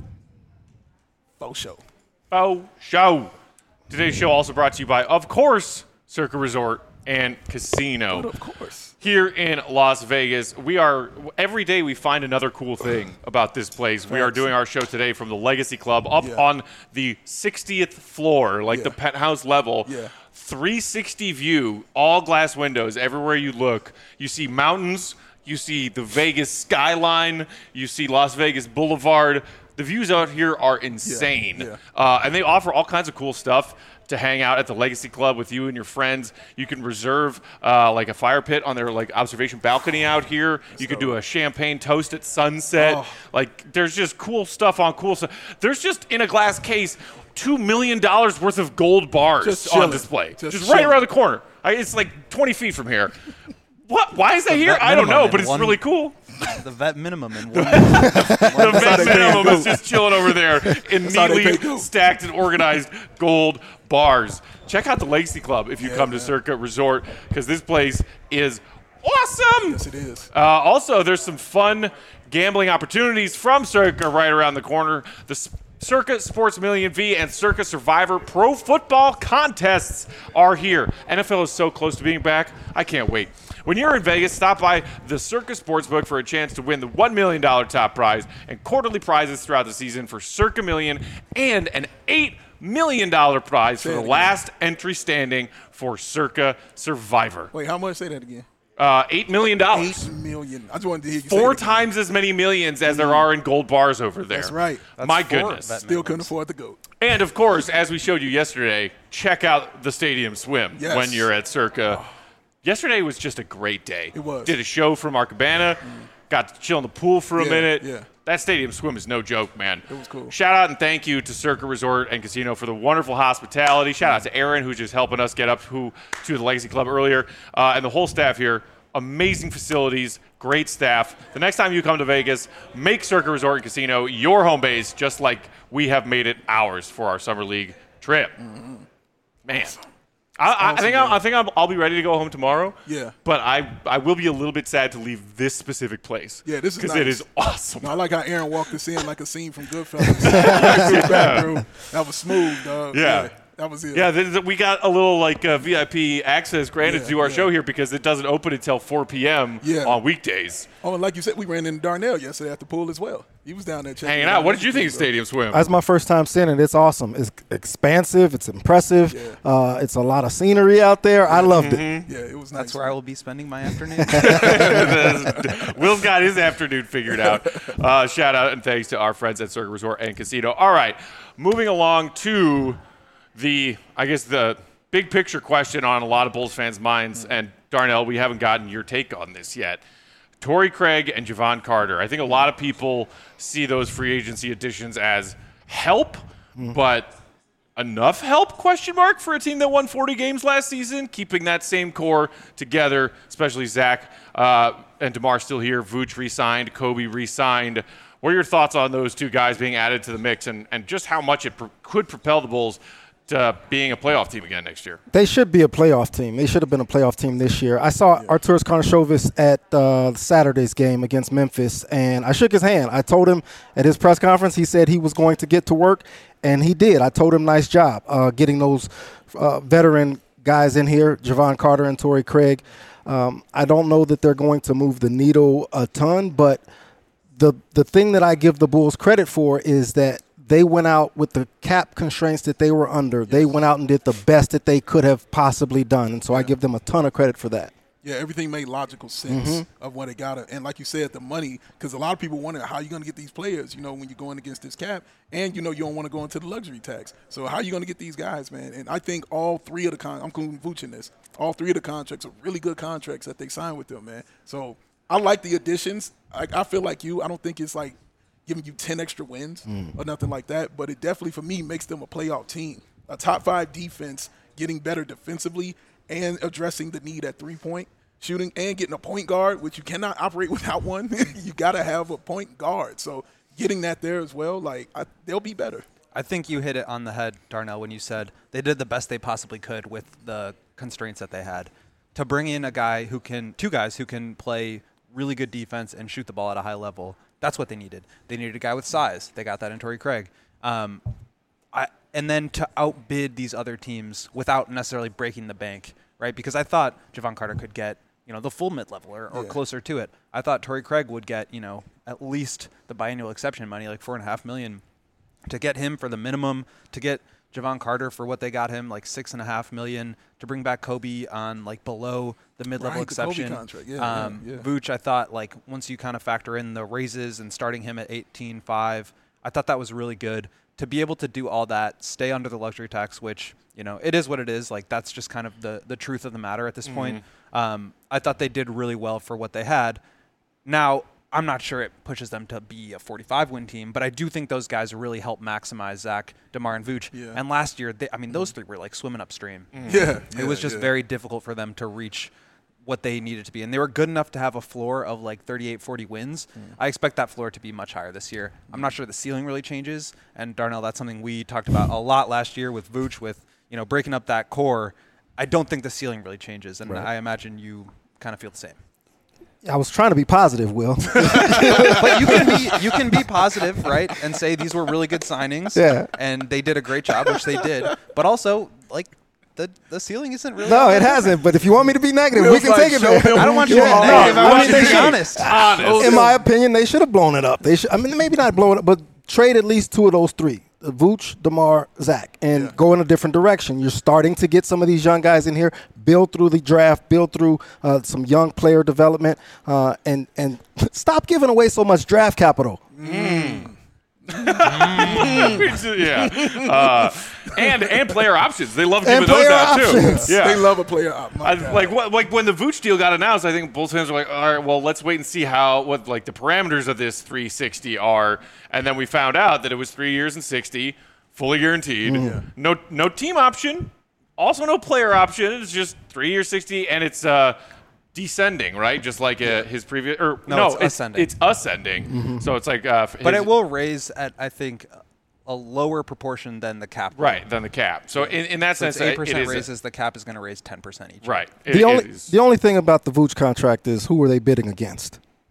Faux show. Oh, show. Today's show also brought to you by, of course, Circa Resort and Casino. But of course. Here in Las Vegas, we are every day we find another cool thing about this place. We are Facts. doing our show today from the Legacy Club up Yeah. on the sixtieth floor, like Yeah. the penthouse level. Yeah. three sixty view, all glass windows everywhere you look. You see mountains, you see the Vegas skyline, you see Las Vegas Boulevard. The views out here are insane. yeah. Uh, and they offer all kinds of cool stuff to hang out at the Legacy Club with you and your friends. You can reserve uh, like a fire pit on their like observation balcony out here. You could do a champagne toast at sunset. Oh. Like there's just cool stuff on cool stuff. There's just in a glass case two million dollars worth of gold bars Just on chilling. display. Just Just, right chilling. around the corner. I, it's like twenty feet from here. What? Why is that here? vet I don't minimum know, but in it's one- really cool. The vet minimum in one. The vet they pay minimum gold. is just chilling over there in how they neatly pay gold. stacked and organized gold bars. Check out the Legacy Club if you Yeah, come to man. Circa Resort because this place is awesome. Yes, it is. Uh, also, there's some fun gambling opportunities from Circa right around the corner. The S- Circa Sports Million V and Circa Survivor Pro Football contests are here. N F L is so close to being back. I can't wait. When you're in Vegas, stop by the Circa Sportsbook for a chance to win the one million dollars top prize and quarterly prizes throughout the season for Circa Million and an eight million dollars prize for Say it the again. last entry standing for Circa Survivor. Wait, how much? Say that again. Uh, eight million dollars. Eight million. I just wanted to hear you say Four it again. times as many millions as there are in gold bars over there. That's right. My four goodness. vet Still minimums. couldn't afford the goat. And of course, as we showed you yesterday, check out the Stadium Swim Yes. when you're at Circa. Yesterday was just a great day. It was. Did a show from our cabana, got to chill in the pool for a Yeah, minute. yeah. That Stadium Swim is no joke, man. It was cool. Shout out and thank you to Circa Resort and Casino for the wonderful hospitality. Shout out to Aaron, who's just helping us get up who, to the Legacy Club earlier, uh, and the whole staff here. Amazing facilities, great staff. The next time you come to Vegas, make Circa Resort and Casino your home base, just like we have made it ours for our summer league trip. Man, I, I, I think awesome, I'll, I think I'll, I'll be ready to go home tomorrow. Yeah. but I I will be a little bit sad to leave this specific place. Yeah, this is because it nice. is awesome. No, I like how Aaron walked us in like a scene from Goodfellas. Sit back, bro. That was smooth, dog. Yeah. That was it. Yeah, th- th- we got a little like uh, V I P access granted Yeah, to our yeah. show here because it doesn't open until four p.m. Yeah. on weekdays. Oh, and like you said, we ran into Darnell yesterday at the pool as well. He was down there checking Hanging it out. What did you think of So- Stadium Swim? That's my first time seeing it. It's awesome. It's expansive. It's impressive. Yeah. Uh, it's a lot of scenery out there. I loved it. Yeah, it was nice. That's where I will be spending my afternoon. Will's got his afternoon figured out. Uh, shout out and thanks to our friends at Circuit Resort and Casino. All right, moving along to the, I guess, the big picture question on a lot of Bulls fans' minds. And Darnell, we haven't gotten your take on this yet. Torrey Craig and Javon Carter. I think a lot of people see those free agency additions as help, but enough help, question mark, for a team that won forty games last season, keeping that same core together, especially Zach uh, and DeMar still here. Vooch re-signed, Kobe re-signed. What are your thoughts on those two guys being added to the mix and, and just how much it pr- could propel the Bulls to being a playoff team again next year? They should be a playoff team. They should have been a playoff team this year. I saw Arturas Karnisovas at uh, Saturday's game against Memphis, and I shook his hand. I told him at his press conference, he said he was going to get to work, and he did. I told him nice job uh, getting those uh, veteran guys in here, Javon Carter and Torrey Craig. Um, I don't know that they're going to move the needle a ton, but the the thing that I give the Bulls credit for is that they went out with the cap constraints that they were under. Yes. They went out and did the best that they could have possibly done. And so yeah. I give them a ton of credit for that. Yeah, everything made logical sense mm-hmm. of what it got. And like you said, the money, because a lot of people wonder how are you going to get these players, you know, when you're going against this cap. And, you know, you don't want to go into the luxury tax. So how are you going to get these guys, man? And I think all three of the con- – I'm including Vooch in this. All three of the contracts are really good contracts that they signed with them, man. So I like the additions. I, I feel like you. I don't think it's like giving you ten extra wins mm. or nothing like that. But it definitely, for me, makes them a playoff team. A top five defense, getting better defensively and addressing the need at three-point shooting and getting a point guard, which you cannot operate without one. You got to have a point guard. So getting that there as well, like I, they'll be better. I think you hit it on the head, Darnell, when you said they did the best they possibly could with the constraints that they had. To bring in a guy who can – two guys who can play really good defense and shoot the ball at a high level, that's what they needed. They needed a guy with size. They got that in Torrey Craig. Um, I, and then to outbid these other teams without necessarily breaking the bank, right? Because I thought Javon Carter could get – you know, the full mid-level or, or yeah. closer to it. I thought Torrey Craig would get, you know, at least the biannual exception money, like four and a half million, to get him for the minimum, to get Javon Carter for what they got him, like six and a half million, to bring back Kobe on like below the mid-level right, exception. The Kobe contract. Yeah, um, yeah, yeah. Vooch, I thought, like once you kind of factor in the raises and starting him at eighteen five, I thought that was really good. To be able to do all that, stay under the luxury tax, which, you know, it is what it is. Like, that's just kind of the, the truth of the matter at this mm-hmm. point. Um, I thought they did really well for what they had. Now, I'm not sure it pushes them to be a forty-five win team, but I do think those guys really help maximize Zach, DeMar, and Vooch. Yeah. And last year, they, I mean, those three were like swimming upstream. Mm-hmm. Yeah, It was just yeah. very difficult for them to reach what they needed to be. And they were good enough to have a floor of like thirty-eight, forty wins. Mm. I expect that floor to be much higher this year. I'm not sure the ceiling really changes. And Darnell, that's something we talked about a lot last year with Vooch, with, you know, breaking up that core. I don't think the ceiling really changes. And right. I imagine you kind of feel the same. I was trying to be positive, Will. But you can be you can be positive, right, and say these were really good signings. Yeah. And they did a great job, which they did. But also, like, the the ceiling isn't really. No, it hasn't. But if you want me to be negative, Will's we can like, take it there. I don't want you to be Yeah, negative. no, I I want mean, you they to be should- honest. Honest. In my opinion, they should have blown it up. They should. I mean, maybe not blow it up, but trade at least two of those three: Vooch, DeMar, Zach, and Yeah. go in a different direction. You're starting to get some of these young guys in here, build through the draft, build through uh, some young player development, uh, and and stop giving away so much draft capital. Mm. yeah, uh, and and player options. They love giving And those player out options. too. Yeah, They love a player op. My I, God. like what, like when the Vooch deal got announced, I think Bulls fans were like, all right, well, let's wait and see how what like the parameters of this three sixty are, and then we found out that it was three years and sixty, fully guaranteed. Yeah. No no team option, also no player option. It's just three years sixty, and it's uh. descending, right? Just like uh, his previous, or No, no, it's it's ascending. It's ascending. Mm-hmm. So it's like, uh, But his, it will raise at, I think, a lower proportion than the cap. right than the cap. So in, in that So sense, it's eight it percent is raises. The cap is going to raise ten percent each. right. It- The it only is- the only thing about the Vooch contract is who were they bidding against?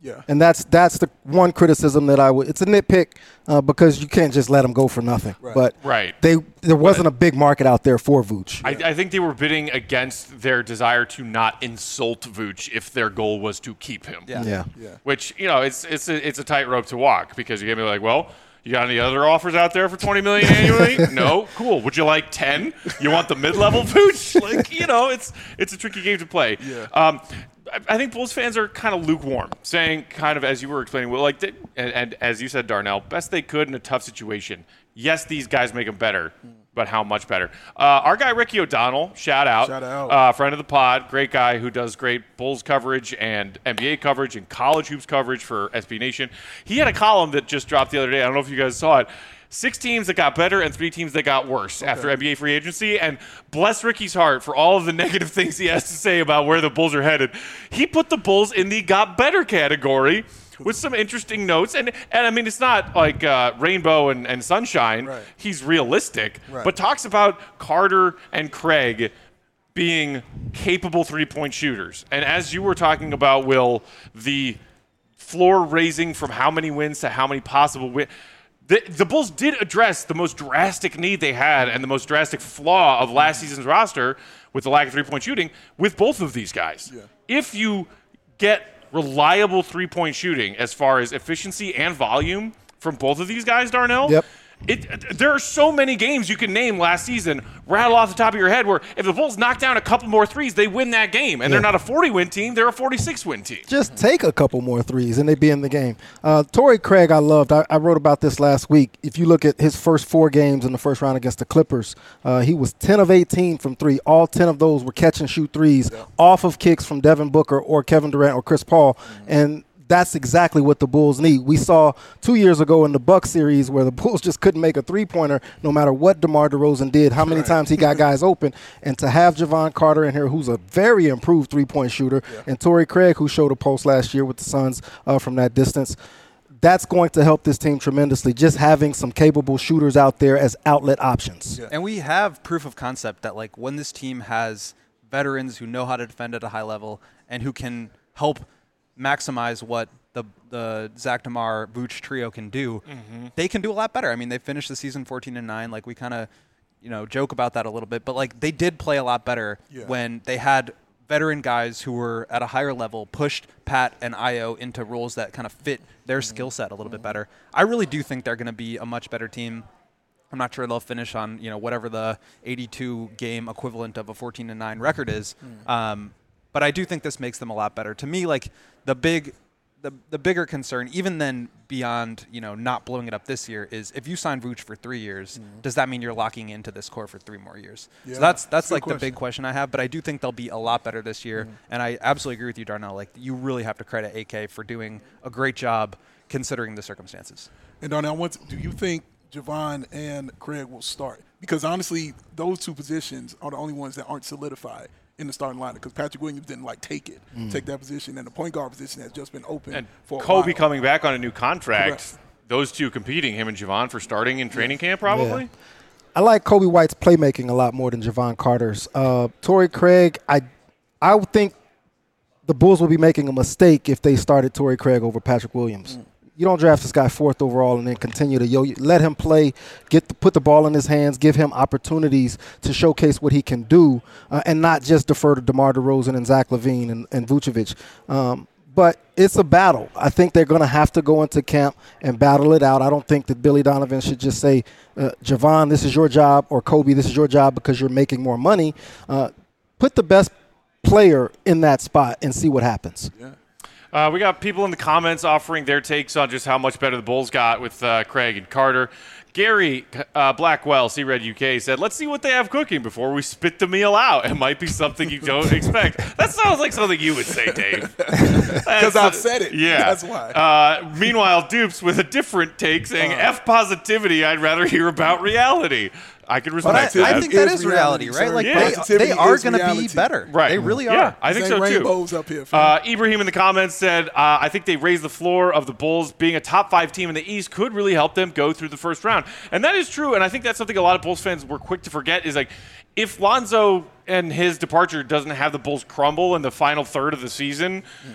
Yeah. And that's that's the one criticism that I would – it's a nitpick uh, because you can't just let them go for nothing. Right. But Right. they there wasn't a big market out there for Vooch. I, I think they were bidding against their desire to not insult Vooch if their goal was to keep him. Yeah. Yeah. Yeah. Which, you know, it's it's a, it's a tightrope to walk because you're going to be like, well, you got any other offers out there for twenty million dollars annually? No? Cool. Would you like ten? You want the mid-level Vooch? Like, you know, it's it's a tricky game to play. Yeah. Um, I, I think Bulls fans are kind of lukewarm, saying kind of as you were explaining, well, like, and, and as you said, Darnell, best they could in a tough situation. Yes, these guys make them better. But how much better? Uh, our guy Ricky O'Donnell, shout out, Shout out. Uh, friend of the pod, great guy who does great Bulls coverage and N B A coverage and college hoops coverage for S B Nation. He had a column that just dropped the other day. I don't know if you guys saw it. Six teams that got better and three teams that got worse okay. after N B A free agency. And bless Ricky's heart for all of the negative things he has to say about where the Bulls are headed. He put the Bulls in the got better category with some interesting notes. And, and I mean, it's not like uh, rainbow and, and sunshine. Right. He's realistic, right. but talks about Carter and Craig being capable three-point shooters. And as you were talking about, Will, the floor raising from how many wins to how many possible wins, the, the Bulls did address the most drastic need they had and the most drastic flaw of last season's roster with the lack of three-point shooting with both of these guys. Yeah. If you get reliable three-point shooting as far as efficiency and volume from both of these guys, Darnell. Yep. It, there are so many games you can name last season, rattle off the top of your head, where if the Bulls knock down a couple more threes, they win that game. And yeah. they're not a forty-win team, they're a forty-six win team. Just take a couple more threes and they'd be in the game. Uh, Torrey Craig, I loved. I, I wrote about this last week. If you look at his first four games in the first round against the Clippers, uh, he was ten of eighteen from three. All ten of those were catch and shoot threes yeah. off of kicks from Devin Booker or Kevin Durant or Chris Paul. Mm-hmm. And that's exactly what the Bulls need. We saw two years ago in the Bucks series where the Bulls just couldn't make a three-pointer no matter what DeMar DeRozan did, how many right. times he got guys open. And to have Javon Carter in here, who's a very improved three-point shooter, yeah. and Torrey Craig, who showed a post last year with the Suns uh, from that distance, that's going to help this team tremendously, just having some capable shooters out there as outlet options. Yeah. And we have proof of concept that, like, when this team has veterans who know how to defend at a high level and who can help – maximize what the the Zach DeMar Vooch trio can do, mm-hmm. they can do a lot better. I mean, they finished the season fourteen and nine. Like, we kind of, you know, joke about that a little bit, but like they did play a lot better yeah. when they had veteran guys who were at a higher level, pushed Pat and Ayo into roles that kind of fit their mm-hmm. skill set a little mm-hmm. bit better. I really do think they're going to be a much better team. I'm not sure they'll finish on, you know, whatever the eighty-two game equivalent of a fourteen and nine record is. Mm. Um, But I do think this makes them a lot better. To me, like the big, the the bigger concern, even then beyond, you know, not blowing it up this year, is if you sign Vooch for three years, mm-hmm. does that mean you're locking into this core for three more years? Yeah, so that's that's like question. the big question I have. But I do think they'll be a lot better this year, mm-hmm. and I absolutely agree with you, Darnell. Like, you really have to credit A K for doing a great job considering the circumstances. And Darnell, what do you think Javon and Craig will start? Because honestly, those two positions are the only ones that aren't solidified in the starting lineup, because Patrick Williams didn't like take it, mm. take that position, and the point guard position has just been open and for a Kobe while. coming back on a new contract. Correct. Those two competing, him and Javon, for starting in training camp probably. Yeah. I like Kobe White's playmaking a lot more than Javon Carter's. Uh, Torrey Craig, I, I would think the Bulls will be making a mistake if they started Torrey Craig over Patrick Williams. Mm. You don't draft this guy fourth overall and then continue to yo let him play, get the, put the ball in his hands, give him opportunities to showcase what he can do, uh, and not just defer to DeMar DeRozan and Zach LaVine and, and Vucevic. Um, but it's a battle. I think they're going to have to go into camp and battle it out. I don't think that Billy Donovan should just say, uh, Javon, this is your job, or Kobe, this is your job because you're making more money. Uh, put the best player in that spot and see what happens. Yeah. Uh, we got people in the comments offering their takes on just how much better the Bulls got with uh, Craig and Carter. Gary uh, Blackwell, C-Red U K, said, let's see what they have cooking before we spit the meal out. It might be something you don't expect. That sounds like something you would say, Dave. Because I've said it. Yeah. That's why. Uh, meanwhile, Dupes with a different take saying, uh, F positivity, I'd rather hear about reality. I can respect I, that. I think that is reality, reality right? Like yeah. they, they are going to be better. Right. They really are. Yeah, I think so rainbows too. Up here, uh, Ibrahim in the comments said, uh, I think they raised the floor of the Bulls. Being a top five team in the East could really help them go through the first round. And that is true. And I think that's something a lot of Bulls fans were quick to forget is like, if Lonzo and his departure doesn't have the Bulls crumble in the final third of the season, mm.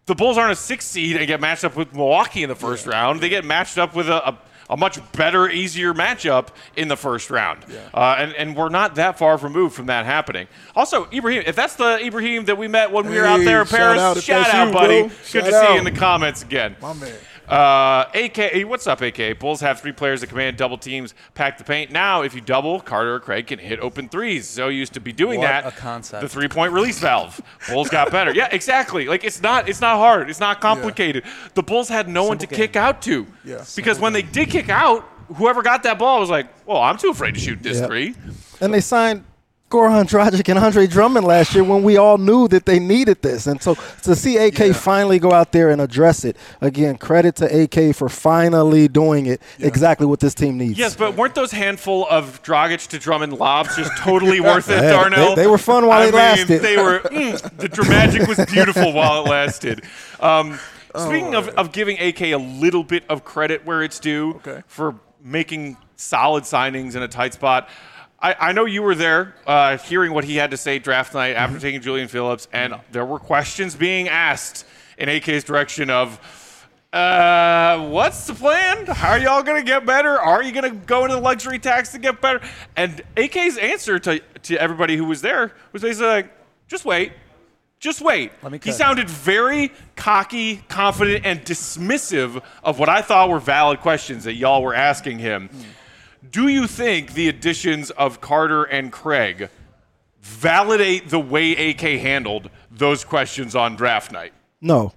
the Bulls aren't a six seed and get matched up with Milwaukee in the first yeah. round. They get matched up with a, a, a much better, easier matchup in the first round. Yeah. Uh, and, and we're not that far removed from that happening. Also, Ibrahim, if that's the Ibrahim that we met when hey, we were out there in Paris, shout out, shout out you, buddy. Bro. Good shout to out. see you in the comments again. My man. Uh, A K, what's up, A K? Bulls have three players that command double teams, pack the paint. Now, if you double, Carter or Craig can hit open threes. So used to be doing what that. A concept. The three-point release valve. Bulls got better. Yeah, exactly. Like it's not, it's not hard. It's not complicated. Yeah. The Bulls had no Simple one to game. kick out to. Yeah. Because when game. they did kick out, whoever got that ball was like, "Well, I'm too afraid to shoot this yep. three." And they signed Goran Dragic and Andre Drummond last year when we all knew that they needed this. And so to see A K yeah. finally go out there and address it, again, credit to A K for finally doing it yeah. exactly what this team needs. Yes, but weren't those handful of Dragic to Drummond lobs just totally worth it, yeah, Darnell? They, they were fun while I they mean, lasted. They were, mm, the dramatic was beautiful while it lasted. Um, speaking oh, of, of giving A K a little bit of credit where it's due okay. for making solid signings in a tight spot, I, I know you were there uh, hearing what he had to say draft night after mm-hmm. taking Julian Phillips, and there were questions being asked in A K's direction of, uh, what's the plan? How are y'all going to get better? Are you going to go into the luxury tax to get better? And A K's answer to, to everybody who was there was basically like, just wait. Just wait. Let me he sounded very cocky, confident, and dismissive of what I thought were valid questions that y'all were asking him. Mm. Do you think the additions of Carter and Craig validate the way A K handled those questions on draft night? No.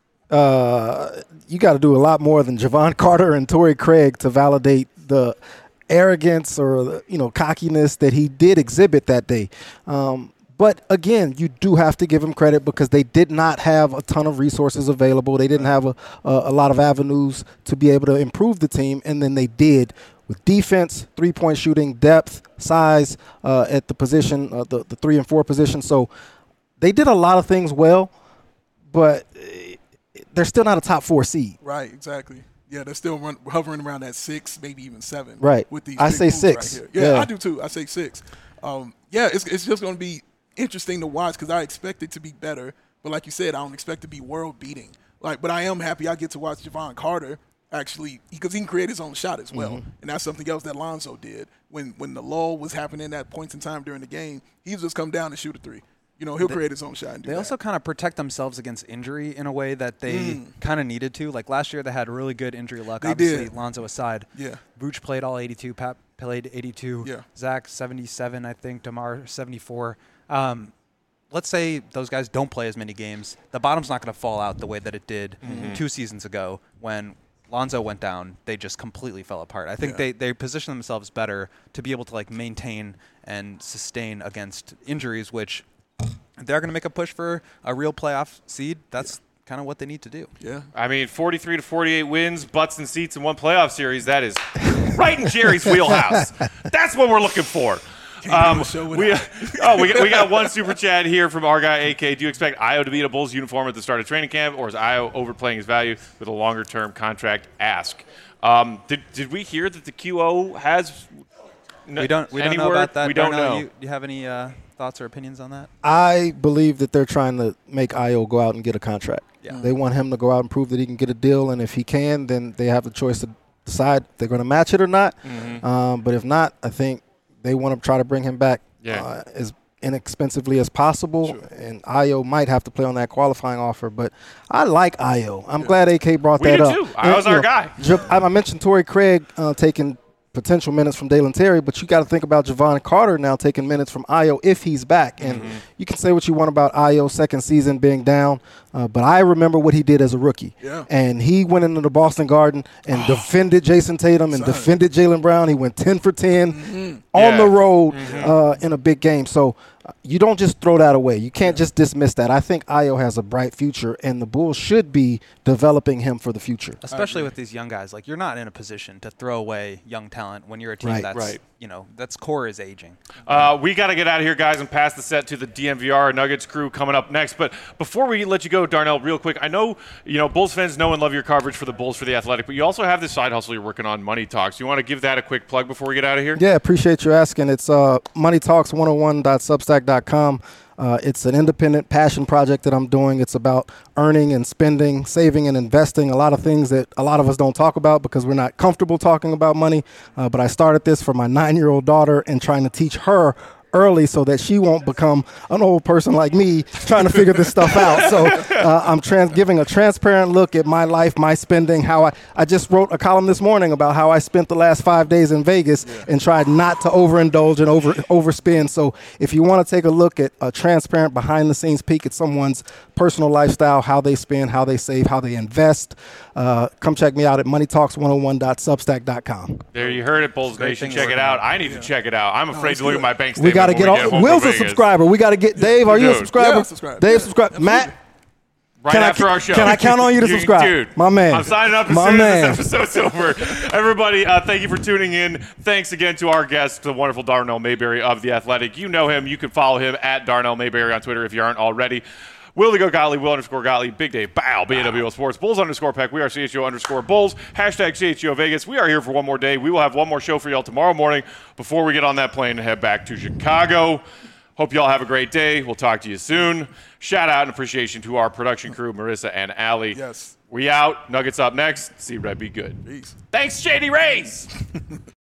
Uh, you got to do a lot more than Javon Carter and Torrey Craig to validate the arrogance or the, you know, cockiness that he did exhibit that day. Um, But, again, you do have to give him credit because they did not have a ton of resources available. They didn't have a, a, a lot of avenues to be able to improve the team, and then they did with defense, three-point shooting, depth, size uh, at the position, uh, the, the three and four position. So they did a lot of things well, but they're still not a top four seed. Right, exactly. Yeah, they're still run, hovering around that six, maybe even seven. Right. With these I say six. Right here. Yeah, yeah, I do too. I say six. Um, yeah, it's it's just going to be interesting to watch because I expect it to be better, but like you said, I don't expect it to be world beating. Like, but I am happy I get to watch Javon Carter actually because he can create his own shot as well, mm-hmm. and that's something else that Lonzo did when when the lull was happening at points in time during the game. He just come down and shoot a three. You know, he'll they, create his own shot. And do they that. also kind of protect themselves against injury in a way that they mm. kind of needed to. Like last year, they had really good injury luck. They Obviously, did. Lonzo aside. Yeah. Vooch played all eighty-two. Pat played eighty-two. Yeah. Zach seventy-seven, I think. DeMar seventy-four. Um, let's say those guys don't play as many games. The bottom's not going to fall out the way that it did mm-hmm. two seasons ago when Lonzo went down. They just completely fell apart. I think yeah. they, they position themselves better to be able to like maintain and sustain against injuries, which they're going to make a push for a real playoff seed. That's yeah. kind of what they need to do. Yeah. I mean, forty-three to forty-eight wins, butts and seats in one playoff series. That is right in Jerry's wheelhouse. That's what we're looking for. Um, we, oh, we got, we got one super chat here from our guy A K. Do you expect Ayo to be in a Bulls uniform at the start of training camp, or is Ayo overplaying his value with a longer-term contract? Ask. Um, did did we hear that the Q O has? N- we don't. We don't know word? about that. We don't Darnell, know. You, you have any uh, thoughts or opinions on that? I believe that they're trying to make Ayo go out and get a contract. Yeah. They want him to go out and prove that he can get a deal, and if he can, then they have the choice to decide if they're going to match it or not. Mm-hmm. Um, but if not, I think they want to try to bring him back yeah. uh, as inexpensively as possible. Sure. And Ayo might have to play on that qualifying offer. But I like Ayo. I'm yeah. glad A K brought we that do up. Too. Ayo's our know, guy. I mentioned Torrey Craig uh, taking potential minutes from Dalen Terry, but you got to think about Javon Carter now taking minutes from Ayo if he's back. And mm-hmm. you can say what you want about Ayo's second season being down, uh, but I remember what he did as a rookie. Yeah. And he went into the Boston Garden and oh, defended Jason Tatum and son. defended Jaylen Brown. He went ten for ten mm-hmm. on yeah. the road mm-hmm. uh, in a big game. So uh, you don't just throw that away. You can't just dismiss that. I think Ayo has a bright future, and the Bulls should be developing him for the future. Especially with these young guys. Like, you're not in a position to throw away young talent when you're a team right. that's, right. you know, that's core is aging. Uh, we got to get out of here, guys, and pass the set to the D M V R Nuggets crew coming up next. But before we let you go, Darnell, real quick, I know, you know, Bulls fans know and love your coverage for the Bulls for the Athletic, but you also have this side hustle you're working on, Money Talks. You want to give that a quick plug before we get out of here? Yeah, appreciate you asking. It's uh, money talks one oh one dot substack dot com. Uh, Uh, it's an independent passion project that I'm doing. It's about earning and spending, saving and investing, a lot of things that a lot of us don't talk about because we're not comfortable talking about money. Uh, but I started this for my nine-year-old daughter and trying to teach her early so that she won't become an old person like me trying to figure this stuff out. So uh, I'm trans- giving a transparent look at my life, my spending, how I, I just wrote a column this morning about how I spent the last five days in Vegas yeah. and tried not to overindulge and over overspend. So if you want to take a look at a transparent behind the scenes peek at someone's personal lifestyle, how they spend, how they save, how they invest, uh, come check me out at money talks one oh one dot substack dot com. There you heard it, Bulls Nation. Check it out. I need yeah. to check it out. I'm afraid no, to look good. at my bank statement. We got to get on. Will's a subscriber. We got to get Dave. Are you a subscriber? Yeah, subscribe. Dave, yeah. subscribe. Matt. Right can after I, our show. Can I count on you to subscribe? Dude, my man. I'm signing up as my soon man. as this episode's over. Everybody, uh, thank you for tuning in. Thanks again to our guest, the wonderful Darnell Mayberry of The Athletic. You know him. You can follow him at Darnell Mayberry on Twitter if you aren't already. Will to go Gottlieb, Will underscore Gottlieb, Big Dave, Bow, B N W L Sports, Bulls underscore Peck. We are C H O underscore Bulls, hashtag C H O Vegas. We are here for one more day. We will have one more show for y'all tomorrow morning before we get on that plane and head back to Chicago. Hope y'all have a great day. We'll talk to you soon. Shout out and appreciation to our production crew, Marissa and Allie. Yes. We out. Nuggets up next. See Red be good. Peace. Thanks, Shady Rays.